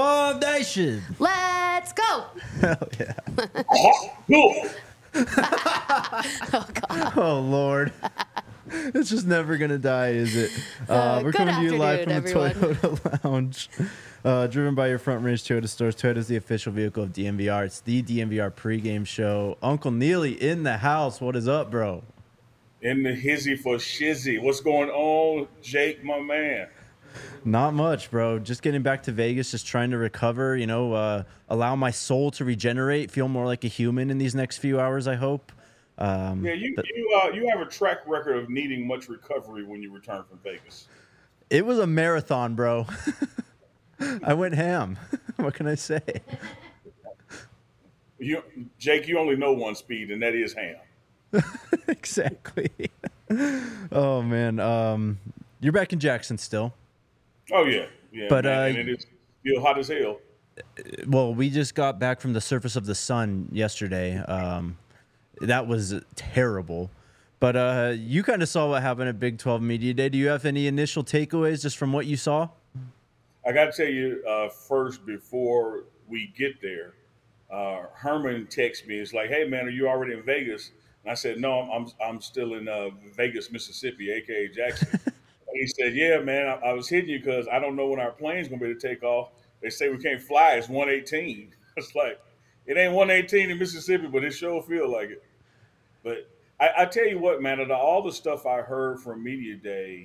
Bomb Nation. Let's go. Hell yeah. Cool. Oh, God. Oh, Lord. It's just never going to die, is it? We're Good coming to you live from afternoon, the Toyota Lounge. Driven by your Front Range Toyota stores. Toyota is the official vehicle of DMVR. It's the DMVR pregame show. Uncle Neely in the house. What is up, bro? In the hizzy for shizzy. What's going on, Jake, my man? Not much, bro. Just getting back to Vegas, just trying to recover, allow my soul to regenerate, feel more like a human in these next few hours, I hope. You have a track record of needing much recovery when you return from Vegas. It was a marathon, bro. I went ham. What can I say? Jake, you only know one speed, and that is ham. Exactly. Oh, man. You're back in Jackson still. Oh, yeah. But, man, and it is still hot as hell. Well, we just got back from the surface of the sun yesterday. That was terrible. But you kind of saw what happened at Big 12 Media Day. Do you have any initial takeaways just from what you saw? I got to tell you first, before we get there, Herman texted me. It's like, hey, man, are you already in Vegas? And I said, no, I'm still in Vegas, Mississippi, a.k.a. Jackson. And he said, yeah, man, I was hitting you because I don't know when our plane's going to be able to take off. They say we can't fly. It's 118. It's like, it ain't 118 in Mississippi, but it sure feel like it. But I tell you what, man, of all the stuff I heard from Media Day,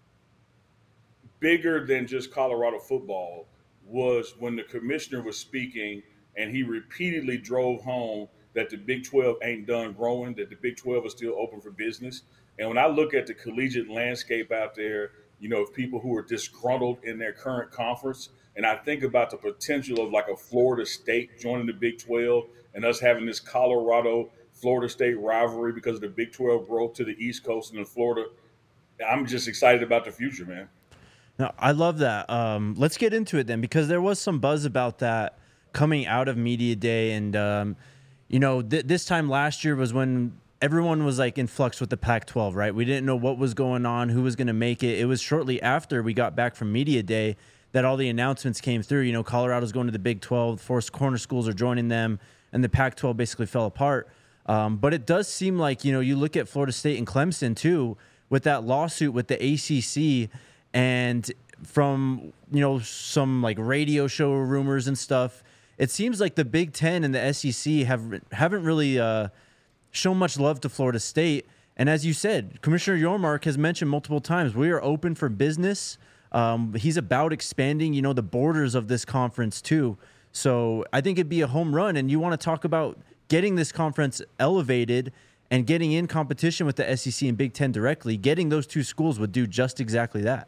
bigger than just Colorado football was when the commissioner was speaking and he repeatedly drove home that the Big 12 ain't done growing, that the Big 12 is still open for business. And when I look at the collegiate landscape out there, of people who are disgruntled in their current conference, and I think about the potential of like a Florida State joining the Big 12 and us having this Colorado-Florida State rivalry because of the Big 12 growth to the East Coast and in Florida, I'm just excited about the future, man. No, I love that. Let's get into it then, because there was some buzz about that coming out of Media Day. And, this time last year was when everyone was like in flux with the Pac-12, right? We didn't know what was going on, who was going to make it. It was shortly after we got back from Media Day that all the announcements came through. Colorado's going to the Big 12, 4 corner schools are joining them, and the Pac-12 basically fell apart. But it does seem like, you look at Florida State and Clemson too, with that lawsuit with the ACC. And from, some like radio show rumors and stuff, it seems like the Big Ten and the SEC haven't really shown much love to Florida State. And as you said, Commissioner Yormark has mentioned multiple times, we are open for business. He's about expanding, the borders of this conference too. So I think it'd be a home run. And you want to talk about getting this conference elevated and getting in competition with the SEC and Big Ten directly. Getting those two schools would do just exactly that.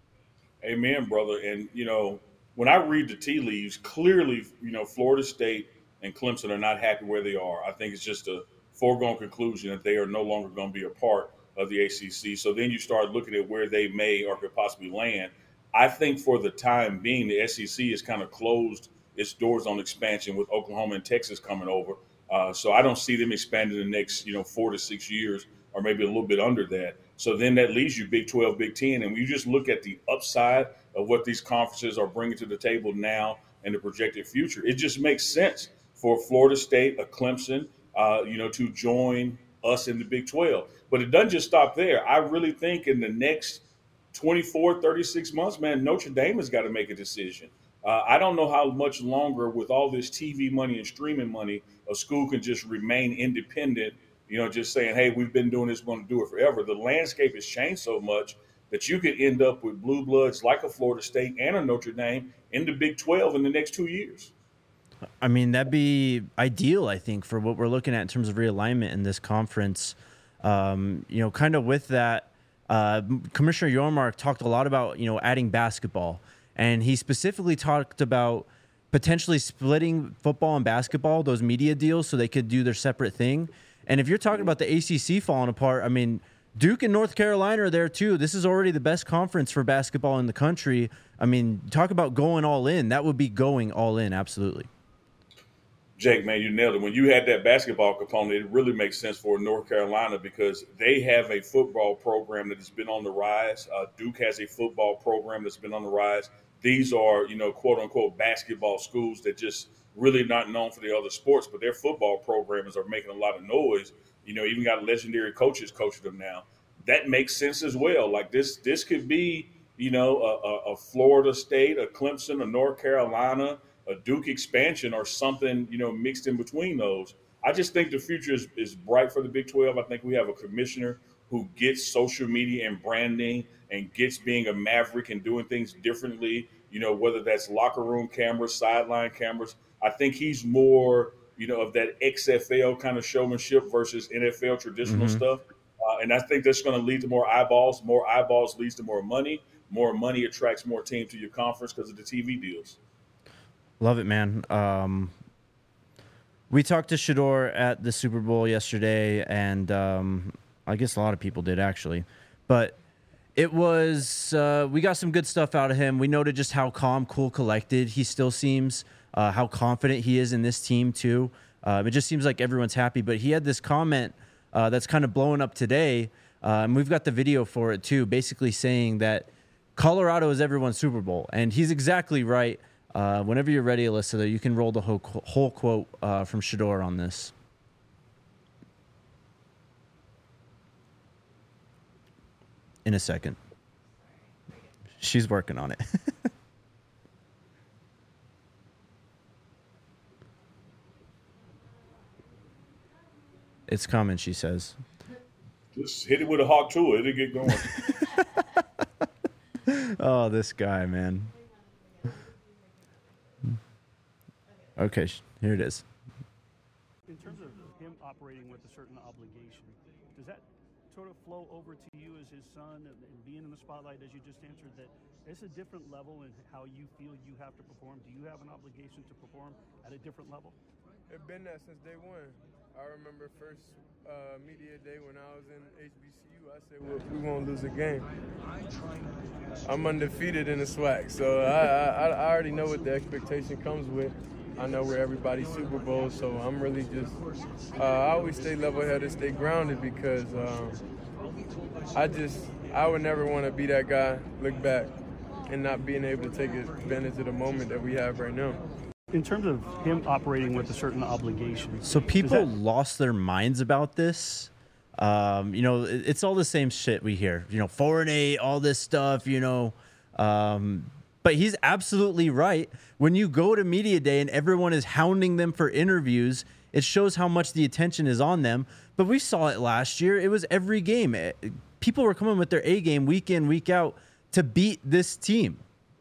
Amen, brother. And, when I read the tea leaves, clearly, Florida State and Clemson are not happy where they are. I think it's just a foregone conclusion that they are no longer going to be a part of the ACC. So then you start looking at where they may or could possibly land. I think for the time being, the SEC has kind of closed its doors on expansion with Oklahoma and Texas coming over. So I don't see them expanding in the next, 4 to 6 years, or maybe a little bit under that. So then that leaves you Big 12, Big 10. And when you just look at the upside of what these conferences are bringing to the table now and the projected future, it just makes sense for Florida State, a Clemson, to join us in the Big 12. But it doesn't just stop there. I really think in the next 24, 36 months, man, Notre Dame has got to make a decision. I don't know how much longer with all this TV money and streaming money, a school can just remain independent, just saying, hey, we've been doing this, we're going to do it forever. The landscape has changed so much that you could end up with blue bloods like a Florida State and a Notre Dame in the Big 12 in the next 2 years. I mean, that'd be ideal, I think, for what we're looking at in terms of realignment in this conference. Kind of with that, Commissioner Yormark talked a lot about, adding basketball. And he specifically talked about potentially splitting football and basketball, those media deals, so they could do their separate thing. And if you're talking about the ACC falling apart, I mean, Duke and North Carolina are there too. This is already the best conference for basketball in the country. I mean, talk about going all in. That would be going all in, absolutely. Jake, man, you nailed it. When you had that basketball component, it really makes sense for North Carolina because they have a football program that has been on the rise. Duke has a football program that's been on the rise. these are, quote unquote basketball schools that just really not known for the other sports, but their football programs are making a lot of noise. Even got legendary coaches coaching them now. That makes sense as well. Like this could be, a Florida State, a Clemson, a North Carolina, a Duke expansion, or something, mixed in between those. I just think the future is bright for the Big 12. I think we have a commissioner who gets social media and branding and gets being a maverick and doing things differently, whether that's locker room cameras, sideline cameras. I think he's more, of that XFL kind of showmanship versus NFL traditional stuff. And I think that's going to lead to more eyeballs. More eyeballs leads to more money. More money attracts more teams to your conference because of the TV deals. Love it, man. We talked to Shedeur at the Super Bowl yesterday, and I guess a lot of people did actually. But it was we got some good stuff out of him. We noted just how calm, cool, collected he still seems, how confident he is in this team too. It just seems like everyone's happy. But he had this comment that's kind of blowing up today, and we've got the video for it too, basically saying that Colorado is everyone's Super Bowl. And he's exactly right. Whenever you're ready, Alyssa, you can roll the whole quote from Shedeur on this. In a second. She's working on it. It's coming, she says. Just hit it with a hawk tool. It'll get going. Oh, this guy, man. Okay, here it is. In terms of him operating with a certain obligation, does that sort of flow over to you as his son and being in the spotlight, as you just answered, that it's a different level in how you feel you have to perform? Do you have an obligation to perform at a different level? It's been that since day one. I remember first media day when I was in HBCU, I said, well, we won't lose a game. I'm undefeated in the SWAC, so I already know what the expectation comes with. I know we're everybody's Super Bowl, so I'm really just, I always stay level-headed, stay grounded, because I would never want to be that guy, look back, and not being able to take advantage of the moment that we have right now. In terms of him operating with a certain obligation. So people lost their minds about this. It's all the same shit we hear. 4-8, all this stuff, But he's absolutely right. When you go to media day and everyone is hounding them for interviews, it shows how much the attention is on them. But we saw it last year. It was every game. People were coming with their A game week in, week out to beat this team.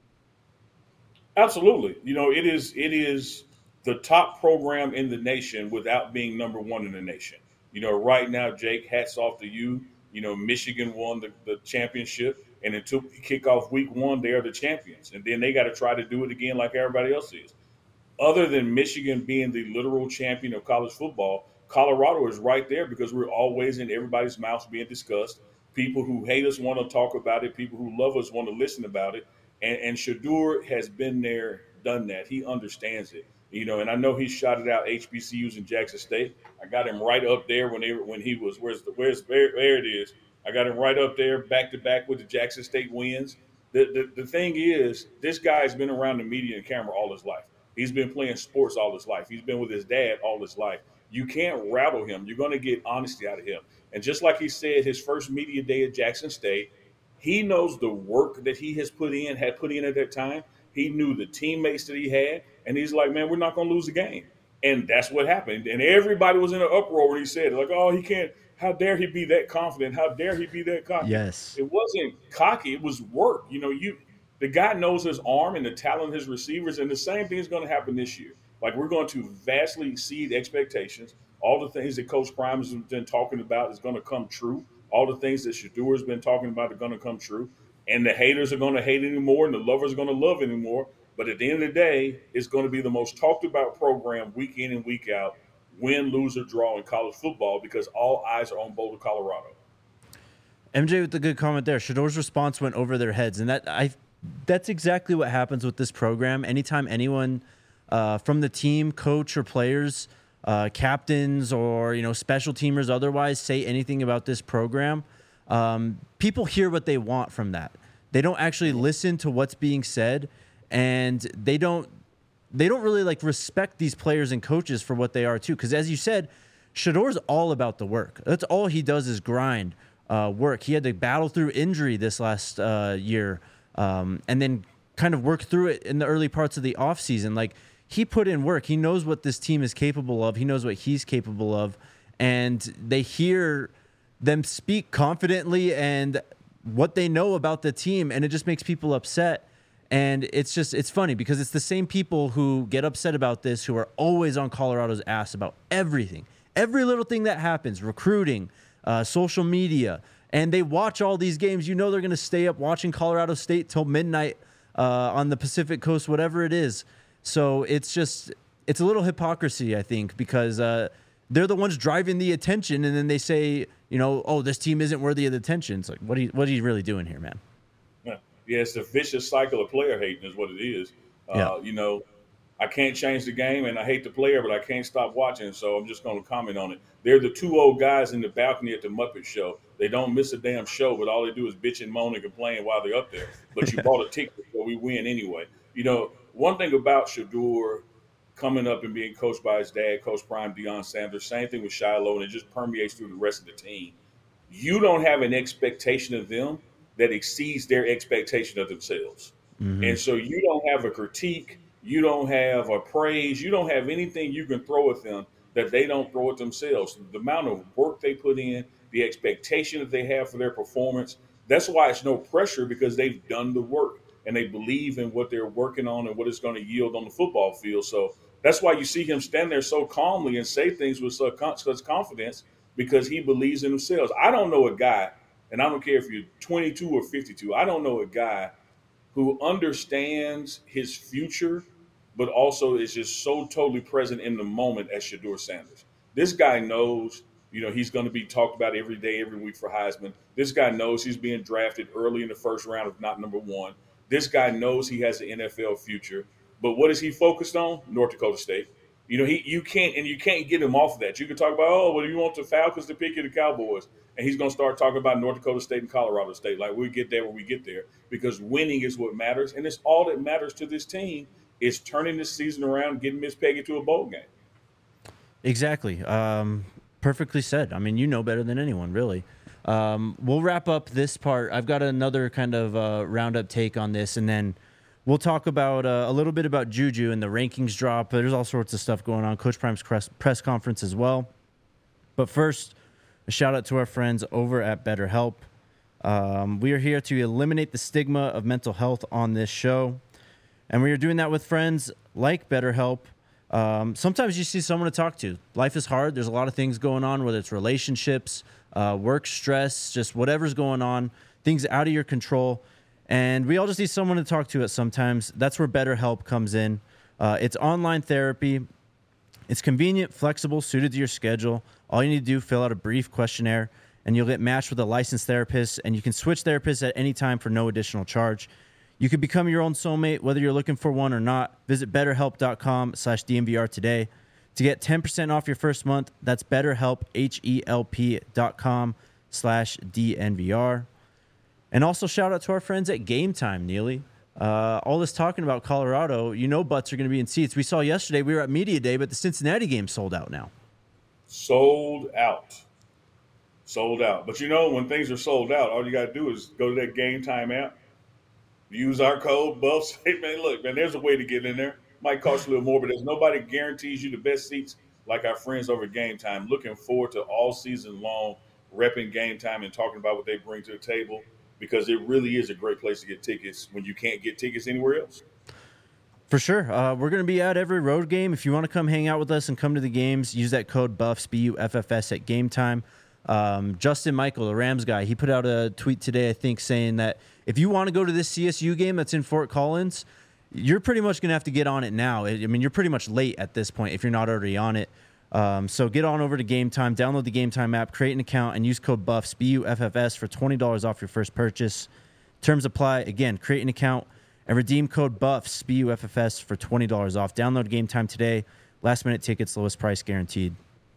Absolutely. It is the top program in the nation without being number one in the nation. Right now, Jake, hats off to you. Michigan won the championship, and until kickoff week one, they are the champions. And then they got to try to do it again like everybody else is. Other than Michigan being the literal champion of college football, Colorado is right there because we're always in everybody's mouths being discussed. People who hate us want to talk about it. People who love us want to listen about it. And Shedeur has been there, done that. He understands it. And I know he shouted out HBCUs in Jackson State. I got him right up there when he was there it is. I got him right up there, back to back with the Jackson State wins. The thing is, this guy's been around the media and camera all his life. He's been playing sports all his life. He's been with his dad all his life. You can't rattle him. You're going to get honesty out of him. And just like he said, his first media day at Jackson State, he knows the work that he had put in at that time. He knew the teammates that he had, and he's like, man, we're not going to lose the game. And that's what happened. And everybody was in an uproar when he said it. Like, oh, he can't. How dare he be that confident? How dare he be that cocky? Yes. It wasn't cocky. It was work. The guy knows his arm and the talent of his receivers, and the same thing is going to happen this year. Like, we're going to vastly exceed expectations. All the things that Coach Prime has been talking about is going to come true. All the things that Shedeur has been talking about are going to come true. And the haters are going to hate anymore, and the lovers are going to love anymore. But at the end of the day, it's going to be the most talked about program week in and week out, win, lose, or draw in college football, because all eyes are on Boulder, Colorado. MJ with the good comment there. Shedeur's response went over their heads, and that's exactly what happens with this program. Anytime anyone from the team, coach or players, captains or special teamers otherwise say anything about this program, people hear what they want from that. They don't actually listen to what's being said. and they don't really like respect these players and coaches for what they are too. Because as you said, Shedor's all about the work. That's all he does is grind, work. He had to battle through injury this last year, and then kind of work through it in the early parts of the offseason. Like, he put in work. He knows what this team is capable of. He knows what he's capable of. And they hear them speak confidently and what they know about the team, and it just makes people upset. And it's funny because it's the same people who get upset about this who are always on Colorado's ass about everything. Every little thing that happens, recruiting, social media, and they watch all these games. You know they're going to stay up watching Colorado State till midnight on the Pacific Coast, whatever it is. So it's a little hypocrisy, I think, because they're the ones driving the attention, and then they say, oh, this team isn't worthy of the attention. It's like, what are you really doing here, man? Yeah, it's a vicious cycle of player hating is what it is. I can't change the game, and I hate the player, but I can't stop watching, so I'm just going to comment on it. They're the two old guys in the balcony at the Muppet Show. They don't miss a damn show, but all they do is bitch and moan and complain while they're up there. But you bought a ticket, so we win anyway. One thing about Shedeur coming up and being coached by his dad, Coach Prime Deion Sanders, same thing with Shiloh, and it just permeates through the rest of the team. You don't have an expectation of them that exceeds their expectation of themselves. Mm-hmm. And so you don't have a critique, you don't have a praise, you don't have anything you can throw at them that they don't throw at themselves. The amount of work they put in, the expectation that they have for their performance, that's why it's no pressure, because they've done the work and they believe in what they're working on and what it's going to yield on the football field. So that's why you see him stand there so calmly and say things with such confidence, because he believes in himself. I don't know a guy, and I don't care if you're 22 or 52, I don't know a guy who understands his future, but also is just so totally present in the moment as Shedeur Sanders. This guy knows, he's going to be talked about every day, every week for Heisman. This guy knows he's being drafted early in the first round, if not number one. This guy knows he has an NFL future. But what is he focused on? North Dakota State. You can't get him off of that. You can talk about, you want the Falcons to pick you, the Cowboys, and he's going to start talking about North Dakota State and Colorado State. Like, we'll get there when we get there, because winning is what matters, and it's all that matters to this team is turning this season around, getting Miss Peggy to a bowl game. Exactly. Perfectly said. I mean, you know better than anyone, really. We'll wrap up this part. I've got another kind of roundup take on this, and then we'll talk about a little bit about Juju and the rankings drop. There's all sorts of stuff going on. Coach Prime's press conference as well. But first, a shout out to our friends over at BetterHelp. We are here to eliminate the stigma of mental health on this show. And we are doing that with friends like BetterHelp. Sometimes you see someone to talk to. Life is hard. There's a lot of things going on, whether it's relationships, work stress, just whatever's going on, things out of your control. And we all just need someone to talk to at sometimes. That's where BetterHelp comes in. It's online therapy. It's convenient, flexible, suited to your schedule. All you need to do, fill out a brief questionnaire, and you'll get matched with a licensed therapist, and you can switch therapists at any time for no additional charge. You can become your own soulmate, whether you're looking for one or not. Visit BetterHelp.com/DNVR today to get 10% off your first month. That's BetterHelp, HELP.com/DNVR. And also shout out to our friends at Game Time, Neely. All this talking about Colorado, butts are going to be in seats. We saw yesterday, we were at Media Day, but the Cincinnati game sold out now. Sold out. But when things are sold out, all you got to do is go to that Game Time app, use our code, Buffs. Hey, man, look, man, there's a way to get in there. Might cost a little more, but there's nobody guarantees you the best seats like our friends over at Game Time. Looking forward to all season long repping Game Time and talking about what they bring to the table, because it really is a great place to get tickets when you can't get tickets anywhere else. For sure. We're going to be at every road game. If you want to come hang out with us and come to the games, use that code BUFFS, BUFFS at Game Time. Justin Michael, the Rams guy, he put out a tweet today, I think, saying that if you want to go to this CSU game that's in Fort Collins, you're pretty much going to have to get on it now. I mean, you're pretty much late at this point if you're not already on it. So get on over to Game Time, download the Game Time app, create an account, and use code BUFFS, BUFFS, for $20 off your first purchase. Terms apply. Again, create an account and redeem code BUFFS, BUFFS, for $20 off. Download Game Time today. Last-minute tickets, lowest price guaranteed.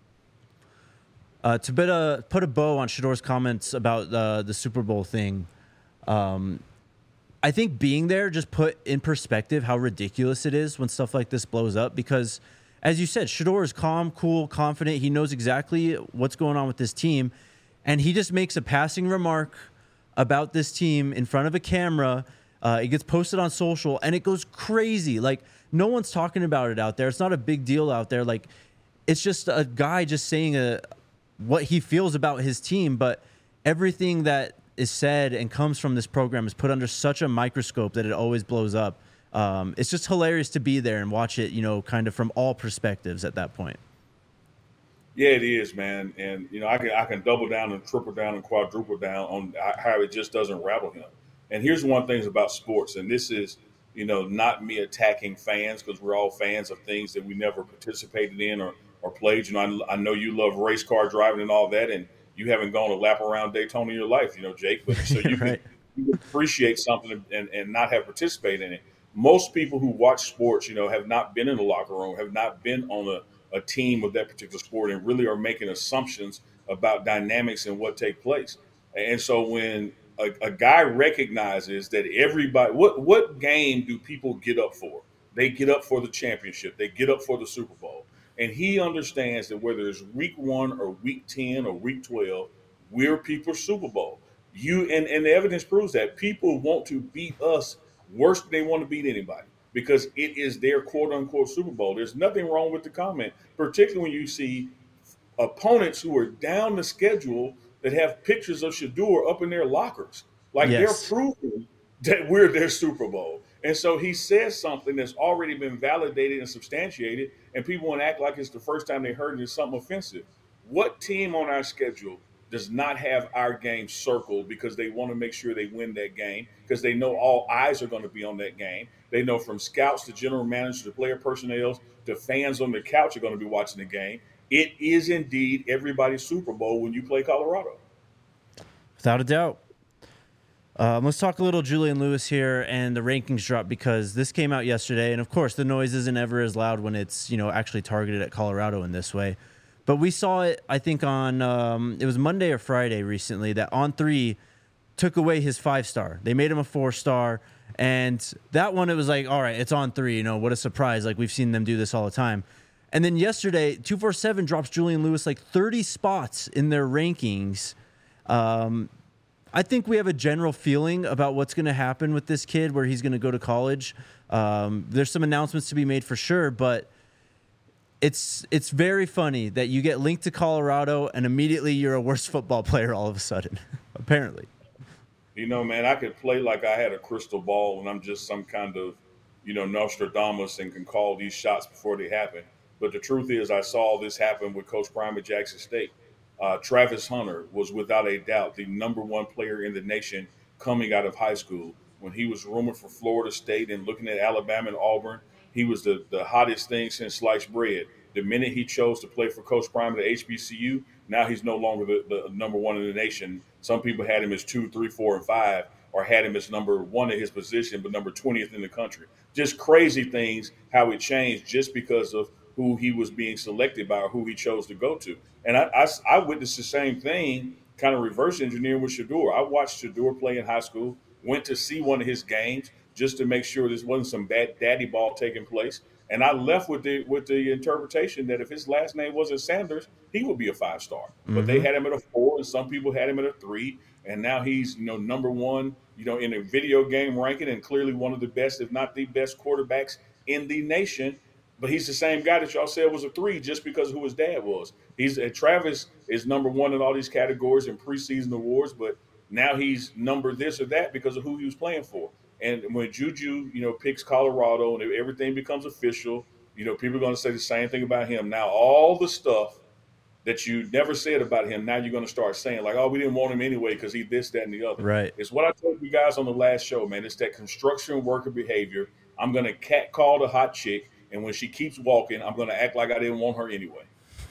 To put a bow on Shedeur's comments about the Super Bowl thing, I think being there just put in perspective how ridiculous it is when stuff like this blows up because, as you said, Shedeur is calm, cool, confident. He knows exactly what's going on with this team, and he just makes a passing remark about this team in front of a camera. It gets posted on social, and it goes crazy. Like, no one's talking about it out there. It's not a big deal out there. Like, it's just a guy just saying what he feels about his team, but everything that is said and comes from this program is put under such a microscope that it always blows up. It's just hilarious to be there and watch it, kind of from all perspectives at that point. Yeah, it is, man. And, I can double down and triple down and quadruple down on how it just doesn't rattle him. And here's one thing about sports, and this is, not me attacking fans because we're all fans of things that we never participated in or played. I know you love race car driving and all that, and you haven't gone a lap around Daytona in your life, Jake. But so you Right. can appreciate something and not have participated in it. Most people who watch sports, have not been in the locker room, have not been on a team of that particular sport, and really are making assumptions about dynamics and what take place. And so when a guy recognizes that everybody, what game do people get up for? They get up for the championship. They get up for the Super Bowl. And he understands that whether it's week 1 or week 10 or week 12, we're people's Super Bowl. And the evidence proves that people want to beat us worse than they want to beat anybody because it is their quote unquote Super Bowl. There's nothing wrong with the comment, particularly when you see opponents who are down the schedule that have pictures of Shedeur up in their lockers. Like Yes. they're proving that we're their Super Bowl. And so he says something that's already been validated and substantiated, and people want to act like it's the first time they heard it as something offensive. What team on our schedule does not have our game circled because they want to make sure they win that game because they know all eyes are going to be on that game? They know from scouts to general managers to player personnel to fans on the couch are going to be watching the game. It is indeed everybody's Super Bowl when you play Colorado. Without a doubt. Let's talk a little Julian Lewis here and the rankings drop because this came out yesterday. And, of course, the noise isn't ever as loud when it's, actually targeted at Colorado in this way. But we saw it, I think, on it was Monday or Friday recently that On3 took away his 5-star. They made him a 4-star. And that one, it was like, all right, it's On3. What a surprise. Like, we've seen them do this all the time. And then yesterday, 247 drops Julian Lewis like 30 spots in their rankings. I think we have a general feeling about what's going to happen with this kid, where he's going to go to college. There's some announcements to be made for sure, but it's very funny that you get linked to Colorado and immediately you're a worse football player all of a sudden, apparently. Man, I could play like I had a crystal ball and I'm just some kind of, Nostradamus and can call these shots before they happen. But the truth is I saw this happen with Coach Prime at Jackson State. Travis Hunter was without a doubt the number 1 player in the nation coming out of high school. When he was rumored for Florida State and looking at Alabama and Auburn, he was the hottest thing since sliced bread. The minute he chose to play for Coach Prime at HBCU, now he's no longer the number 1 in the nation. Some people had him as 2, 3, 4, and 5, or had him as number 1 at his position, but number 20th in the country. Just crazy things, how it changed just because of who he was being selected by or who he chose to go to. And I witnessed the same thing, kind of reverse engineering with Shedeur. I watched Shedeur play in high school, went to see one of his games just to make sure this wasn't some bad daddy ball taking place. And I left with the interpretation that if his last name wasn't Sanders, he would be a 5-star. Mm-hmm. But they had him at a 4, and some people had him at a 3. And now he's, number 1, in a video game ranking, and clearly one of the best, if not the best quarterbacks in the nation. But he's the same guy that y'all said was a 3 just because of who his dad was. Travis is number 1 in all these categories in preseason awards, but now he's number this or that because of who he was playing for. And when Juju, picks Colorado and everything becomes official, people are going to say the same thing about him. Now, all the stuff that you never said about him, now you're going to start saying, like, oh, we didn't want him anyway because he this, that, and the other. Right. It's what I told you guys on the last show, man. It's that construction worker behavior. I'm going to catcall the hot chick, and when she keeps walking, I'm going to act like I didn't want her anyway.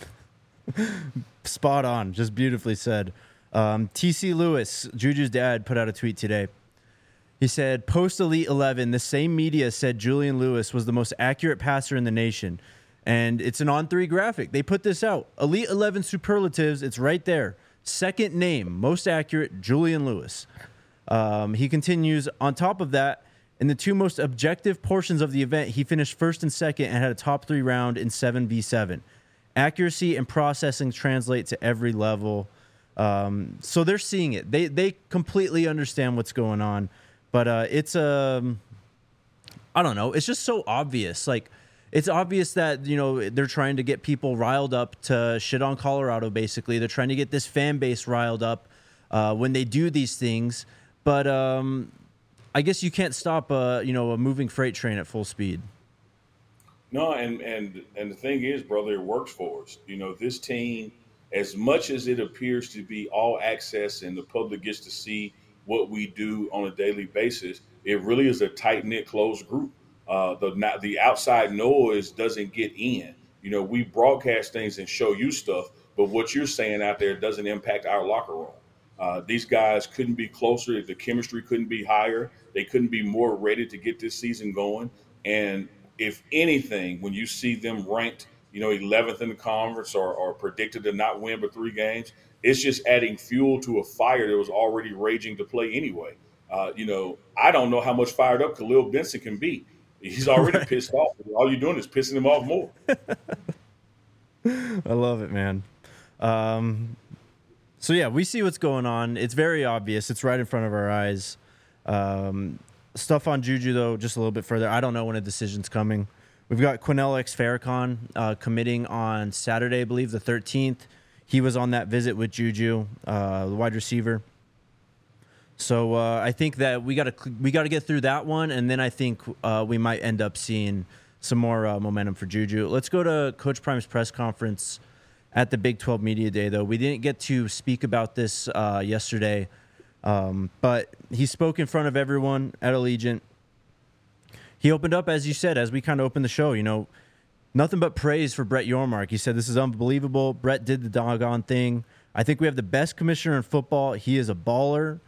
Spot on. Just beautifully said. TC Lewis, Juju's dad, put out a tweet today. He said, post Elite 11, the same media said Julian Lewis was the most accurate passer in the nation. And it's an On3 graphic. They put this out. Elite 11 superlatives, it's right there. Second name, most accurate, Julian Lewis. He continues, on top of that, in the two most objective portions of the event, he finished first and second and had a top 3 round in 7v7. Accuracy and processing translate to every level. So they're seeing it. They completely understand what's going on. But it's I don't know. It's just so obvious. Like, it's obvious that, they're trying to get people riled up to shit on Colorado, basically. They're trying to get this fan base riled up when they do these things. But I guess you can't stop a moving freight train at full speed. No, and the thing is, brother, it works for us. This team, as much as it appears to be all access and the public gets to see what we do on a daily basis, it really is a tight knit, closed group. The outside noise doesn't get in. We broadcast things and show you stuff, but what you're saying out there doesn't impact our locker room. These guys couldn't be closer. The chemistry couldn't be higher. They couldn't be more ready to get this season going. And if anything, when you see them ranked, 11th in the conference or predicted to not win but 3 games, it's just adding fuel to a fire that was already raging to play anyway. I don't know how much fired up Khalil Benson can be. He's already pissed off. All you're doing is pissing him off more. I love it, man. So yeah, we see what's going on. It's very obvious. It's right in front of our eyes. Stuff on Juju, though, just a little bit further. I don't know when a decision's coming. We've got Quinnell X. Farrakhan committing on Saturday, I believe, the 13th. He was on that visit with Juju, the wide receiver. So I think that we got to get through that one, and then I think we might end up seeing some more momentum for Juju. Let's go to Coach Prime's press conference at the Big 12 Media Day, though. We didn't get to speak about this yesterday, but he spoke in front of everyone at Allegiant. He opened up, as you said, as we kind of opened the show, nothing but praise for Brett Yormark. He said, this is unbelievable. Brett did the doggone thing. I think we have the best commissioner in football. He is a baller.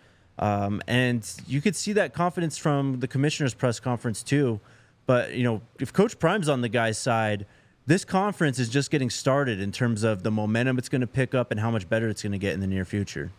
And you could see that confidence from the commissioner's press conference too. But, if Coach Prime's on the guy's side, this conference is just getting started in terms of the momentum it's going to pick up and how much better it's going to get in the near future.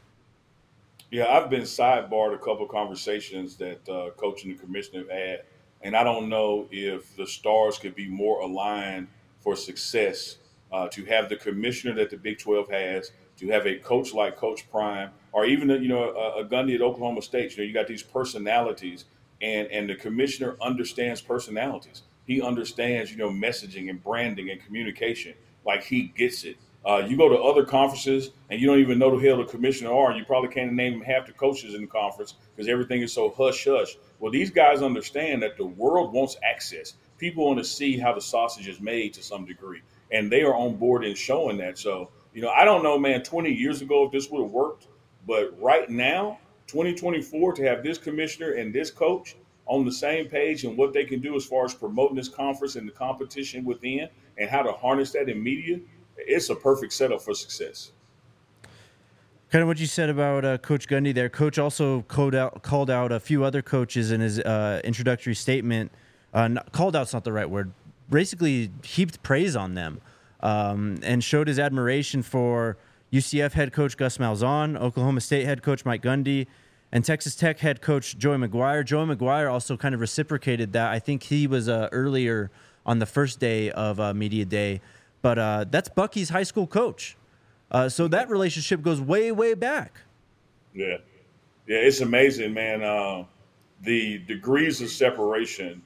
Yeah, I've been sidebarred a couple of conversations that Coach and the commissioner have had. And I don't know if the stars could be more aligned for success to have the commissioner that the Big 12 has, to have a coach like Coach Prime, or even a Gundy at Oklahoma State. You got these personalities, and the commissioner understands personalities. He understands, messaging and branding and communication. Like, he gets it. You go to other conferences and you don't even know who the hell the commissioner are, and you probably can't name half the coaches in the conference because everything is so hush-hush. Well, these guys understand that the world wants access. People want to see how the sausage is made to some degree, and they are on board in showing that. So, I don't know, man, 20 years ago if this would have worked, but right now, 2024, to have this commissioner and this coach on the same page and what they can do as far as promoting this conference and the competition within and how to harness that in media, it's a perfect setup for success. Kind of what you said about Coach Gundy there. Coach also called out a few other coaches in his introductory statement. Called out's not the right word. Basically heaped praise on them and showed his admiration for UCF head coach Gus Malzahn, Oklahoma State head coach Mike Gundy, and Texas Tech head coach Joey McGuire. Joey McGuire also kind of reciprocated that. I think he was earlier on the first day of Media Day. But that's Bucky's high school coach. So that relationship goes way, way back. Yeah. Yeah, it's amazing, man. The degrees of separation,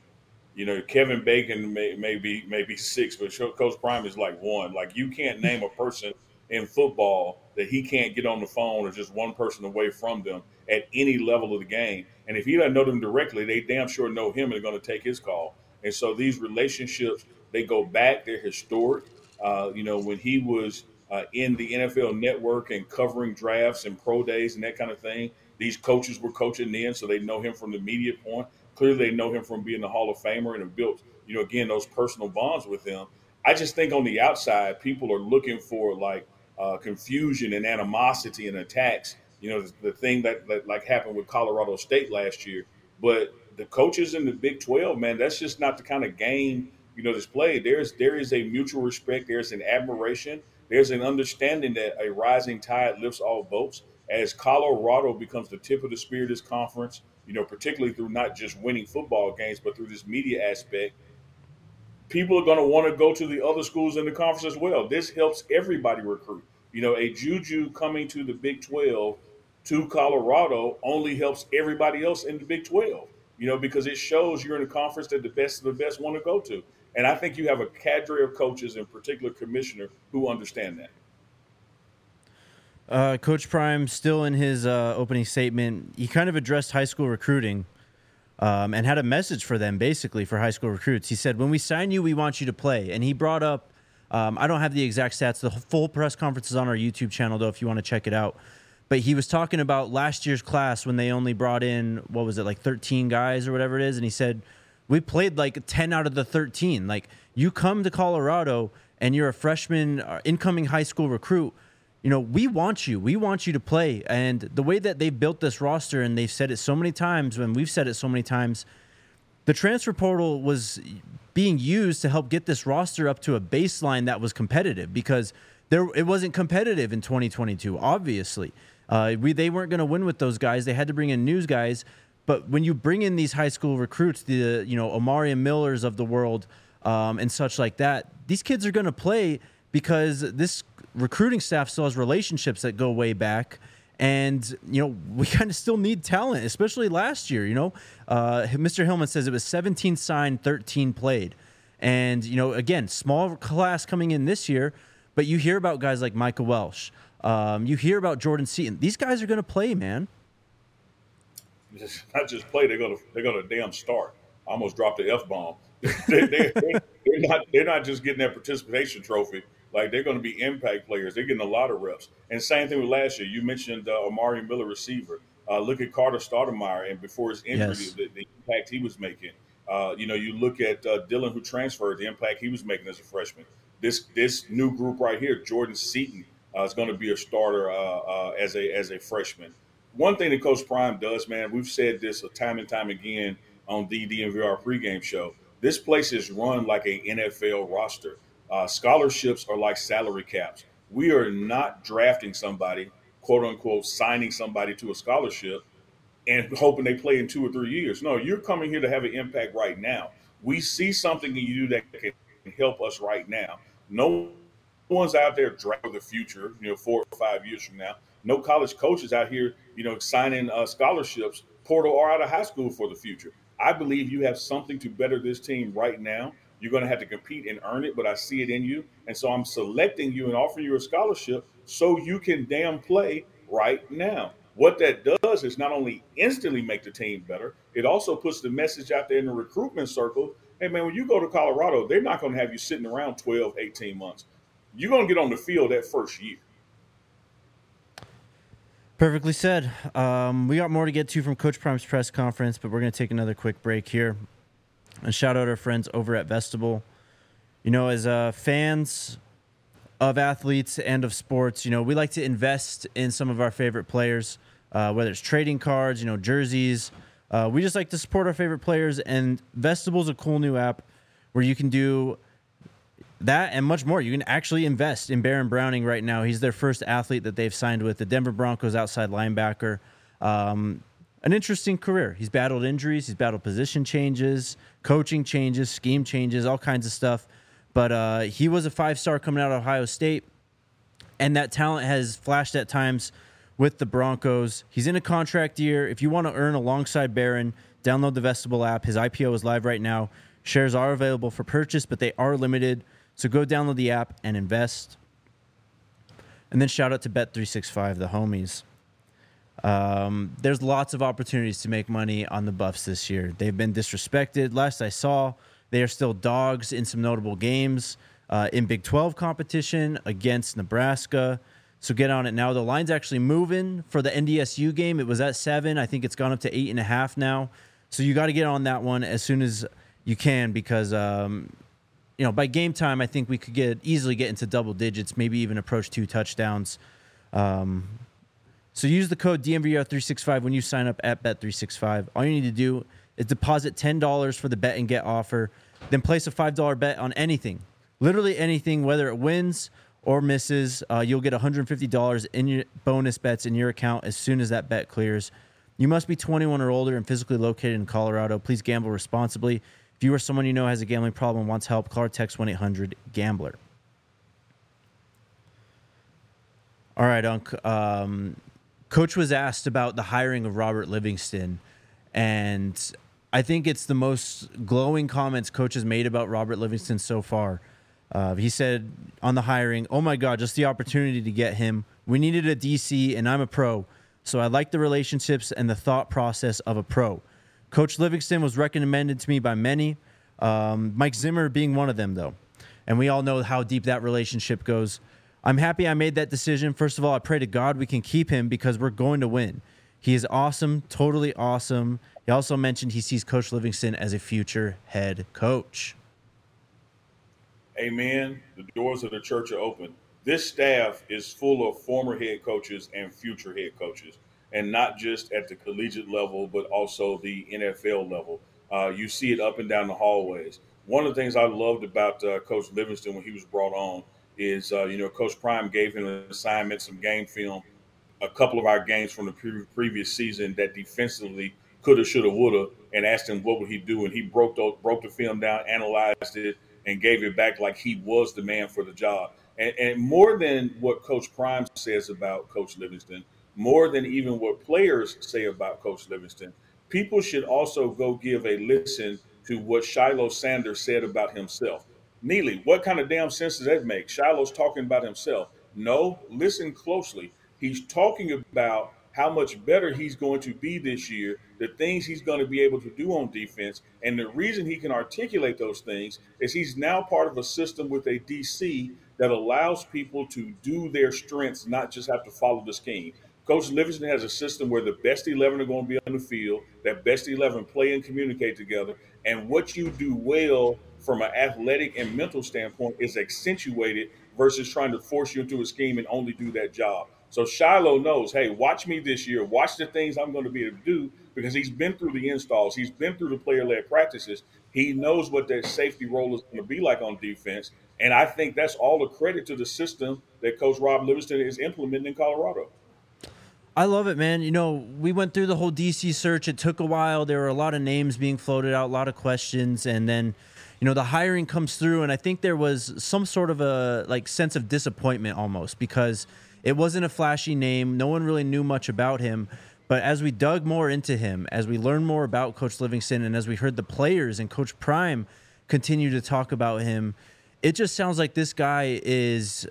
Kevin Bacon may be 6, but Coach Prime is like 1. Like, you can't name a person in football that he can't get on the phone or just one person away from them at any level of the game. And if he doesn't know them directly, they damn sure know him and are going to take his call. And so these relationships, they go back. They're historic. When he was in the NFL Network and covering drafts and pro days and that kind of thing, these coaches were coaching then, so they know him from the media point. Clearly, they know him from being the Hall of Famer and have built, again, those personal bonds with him. I just think on the outside, people are looking for confusion and animosity and attacks. The thing that like happened with Colorado State last year. But the coaches in the Big 12, man, that's just not the kind of game that's played. There is a mutual respect. There's an admiration. There's an understanding that a rising tide lifts all boats. as Colorado becomes the tip of the spear of this conference, particularly through not just winning football games, but through this media aspect, people are going to want to go to the other schools in the conference as well. This helps everybody recruit. A Juju coming to the Big 12 to Colorado only helps everybody else in the Big 12, because it shows you're in a conference that the best of the best want to go to. And I think you have a cadre of coaches, in particular commissioner, who understand that. Coach Prime, still in his opening statement, he kind of addressed high school recruiting and had a message for them, basically, for high school recruits. He said, when we sign you, we want you to play. And he brought up, I don't have the exact stats. The full press conference is on our YouTube channel, though, if you want to check it out. But he was talking about last year's class when they only brought in, 13 guys or whatever it is. And he said, we played like 10 out of the 13. Like, you come to Colorado and you're a freshman, incoming high school recruit. We want you. We want you to play. And the way that they've built this roster, and they've said it so many times, when we've said it so many times, the transfer portal was being used to help get this roster up to a baseline that was competitive, because it wasn't competitive in 2022, obviously. They weren't going to win with those guys. They had to bring in news guys. But when you bring in these high school recruits, the Omari and Millers of the world and such like that, these kids are going to play because this recruiting staff still has relationships that go way back. And, we kind of still need talent, especially last year. Mr. Hillman says it was 17 signed, 13 played. And, again, small class coming in this year, but you hear about guys like Micah Welsh. You hear about Jordan Seaton. These guys are going to play, man. Not just play, they're gonna damn start. I almost dropped the F-bomb. They're not just getting that participation trophy. Like, they're going to be impact players. They're getting a lot of reps. And same thing with last year. You mentioned Omari Miller, receiver. Look at Carter Stoudemire, and before his injury, yes, the impact he was making. You look at Dylan, who transferred, the impact he was making as a freshman. This new group right here, Jordan Seaton, is going to be a starter as a freshman. One thing that Coach Prime does, man, we've said this time and time again on the DNVR pregame show. This place is run like an NFL roster. Scholarships are like salary caps. We are not drafting somebody, quote unquote, signing somebody to a scholarship and hoping they play in 2 or 3 years. No, you're coming here to have an impact right now. We see something in you that can help us right now. No one's out there drafting the future, 4 or 5 years from now. No college coaches out here, signing scholarships, portal or out of high school for the future. I believe you have something to better this team right now. You're going to have to compete and earn it, but I see it in you. And so I'm selecting you and offering you a scholarship so you can damn play right now. What that does is not only instantly make the team better, it also puts the message out there in the recruitment circle. Hey, man, when you go to Colorado, they're not going to have you sitting around 12, 18 months. You're going to get on the field that first year. Perfectly said. We got more to get to from Coach Prime's press conference, but we're going to take another quick break here. And shout out our friends over at Vestibule. As fans of athletes and of sports, we like to invest in some of our favorite players, whether it's trading cards, jerseys. We just like to support our favorite players, and Vestibule is a cool new app where you can do that and much more. You can actually invest in Baron Browning right now. He's their first athlete that they've signed with, the Denver Broncos outside linebacker. An interesting career. He's battled injuries. He's battled position changes, coaching changes, scheme changes, all kinds of stuff. But he was a 5-star coming out of Ohio State, and that talent has flashed at times with the Broncos. He's in a contract year. If you want to earn alongside Baron, download the Vestibule app. His IPO is live right now. Shares are available for purchase, but they are limited. So go download the app and invest. And then shout out to Bet365, the homies. There's lots of opportunities to make money on the Buffs this year. They've been disrespected. Last I saw, they are still dogs in some notable games in Big 12 competition against Nebraska. So get on it now. The line's actually moving for the NDSU game. It was at 7. I think it's gone up to 8.5 now. So you got to get on that one as soon as you can, because by game time, I think we could easily get into double digits, maybe even approach 2 touchdowns. So use the code DNVR365 when you sign up at Bet365. All you need to do is deposit $10 for the bet and get offer, then place a $5 bet on anything, literally anything, whether it wins or misses, you'll get $150 in your bonus bets in your account as soon as that bet clears. You must be 21 or older and physically located in Colorado. Please gamble responsibly. If you or someone you know has a gambling problem and wants help, call or text 1-800-GAMBLER. All right, Unc. Coach was asked about the hiring of Robert Livingston, and I think it's the most glowing comments Coach has made about Robert Livingston so far. He said on the hiring, "Oh my God, just the opportunity to get him. We needed a DC, and I'm a pro, so I like the relationships and the thought process of a pro. Coach Livingston was recommended to me by many, Mike Zimmer being one of them, though. And we all know how deep that relationship goes. I'm happy I made that decision. First of all, I pray to God we can keep him because we're going to win. He is awesome, totally awesome." He also mentioned he sees Coach Livingston as a future head coach. Amen. The doors of the church are open. This staff is full of former head coaches and future head coaches, and not just at the collegiate level, but also the NFL level. You see it up and down the hallways. One of the things I loved about Coach Livingston when he was brought on is, Coach Prime gave him an assignment, some game film, a couple of our games from the previous season that defensively coulda, shoulda, woulda, and asked him what would he do, and he broke the film down, analyzed it, and gave it back like he was the man for the job. And more than what Coach Prime says about Coach Livingston, more than even what players say about Coach Livingston, people should also go give a listen to what Shiloh Sanders said about himself. Neely, what kind of damn sense does that make? Shiloh's talking about himself. No, listen closely. He's talking about how much better he's going to be this year, the things he's going to be able to do on defense. And the reason he can articulate those things is he's now part of a system with a DC that allows people to do their strengths, not just have to follow the scheme. Coach Livingston has a system where the best 11 are going to be on the field, that best 11 play and communicate together. And what you do well from an athletic and mental standpoint is accentuated versus trying to force you into a scheme and only do that job. So Shiloh knows, hey, watch me this year. Watch the things I'm going to be able to do because he's been through the installs. He's been through the player-led practices. He knows what that safety role is going to be like on defense. And I think that's all a credit to the system that Coach Rob Livingston is implementing in Colorado. I love it, man. We went through the whole DC search. It took a while. There were a lot of names being floated out, a lot of questions. And then, the hiring comes through. And I think there was some sort of a sense of disappointment almost because it wasn't a flashy name. No one really knew much about him. But as we dug more into him, as we learned more about Coach Livingston, and as we heard the players and Coach Prime continue to talk about him, it just sounds like this guy is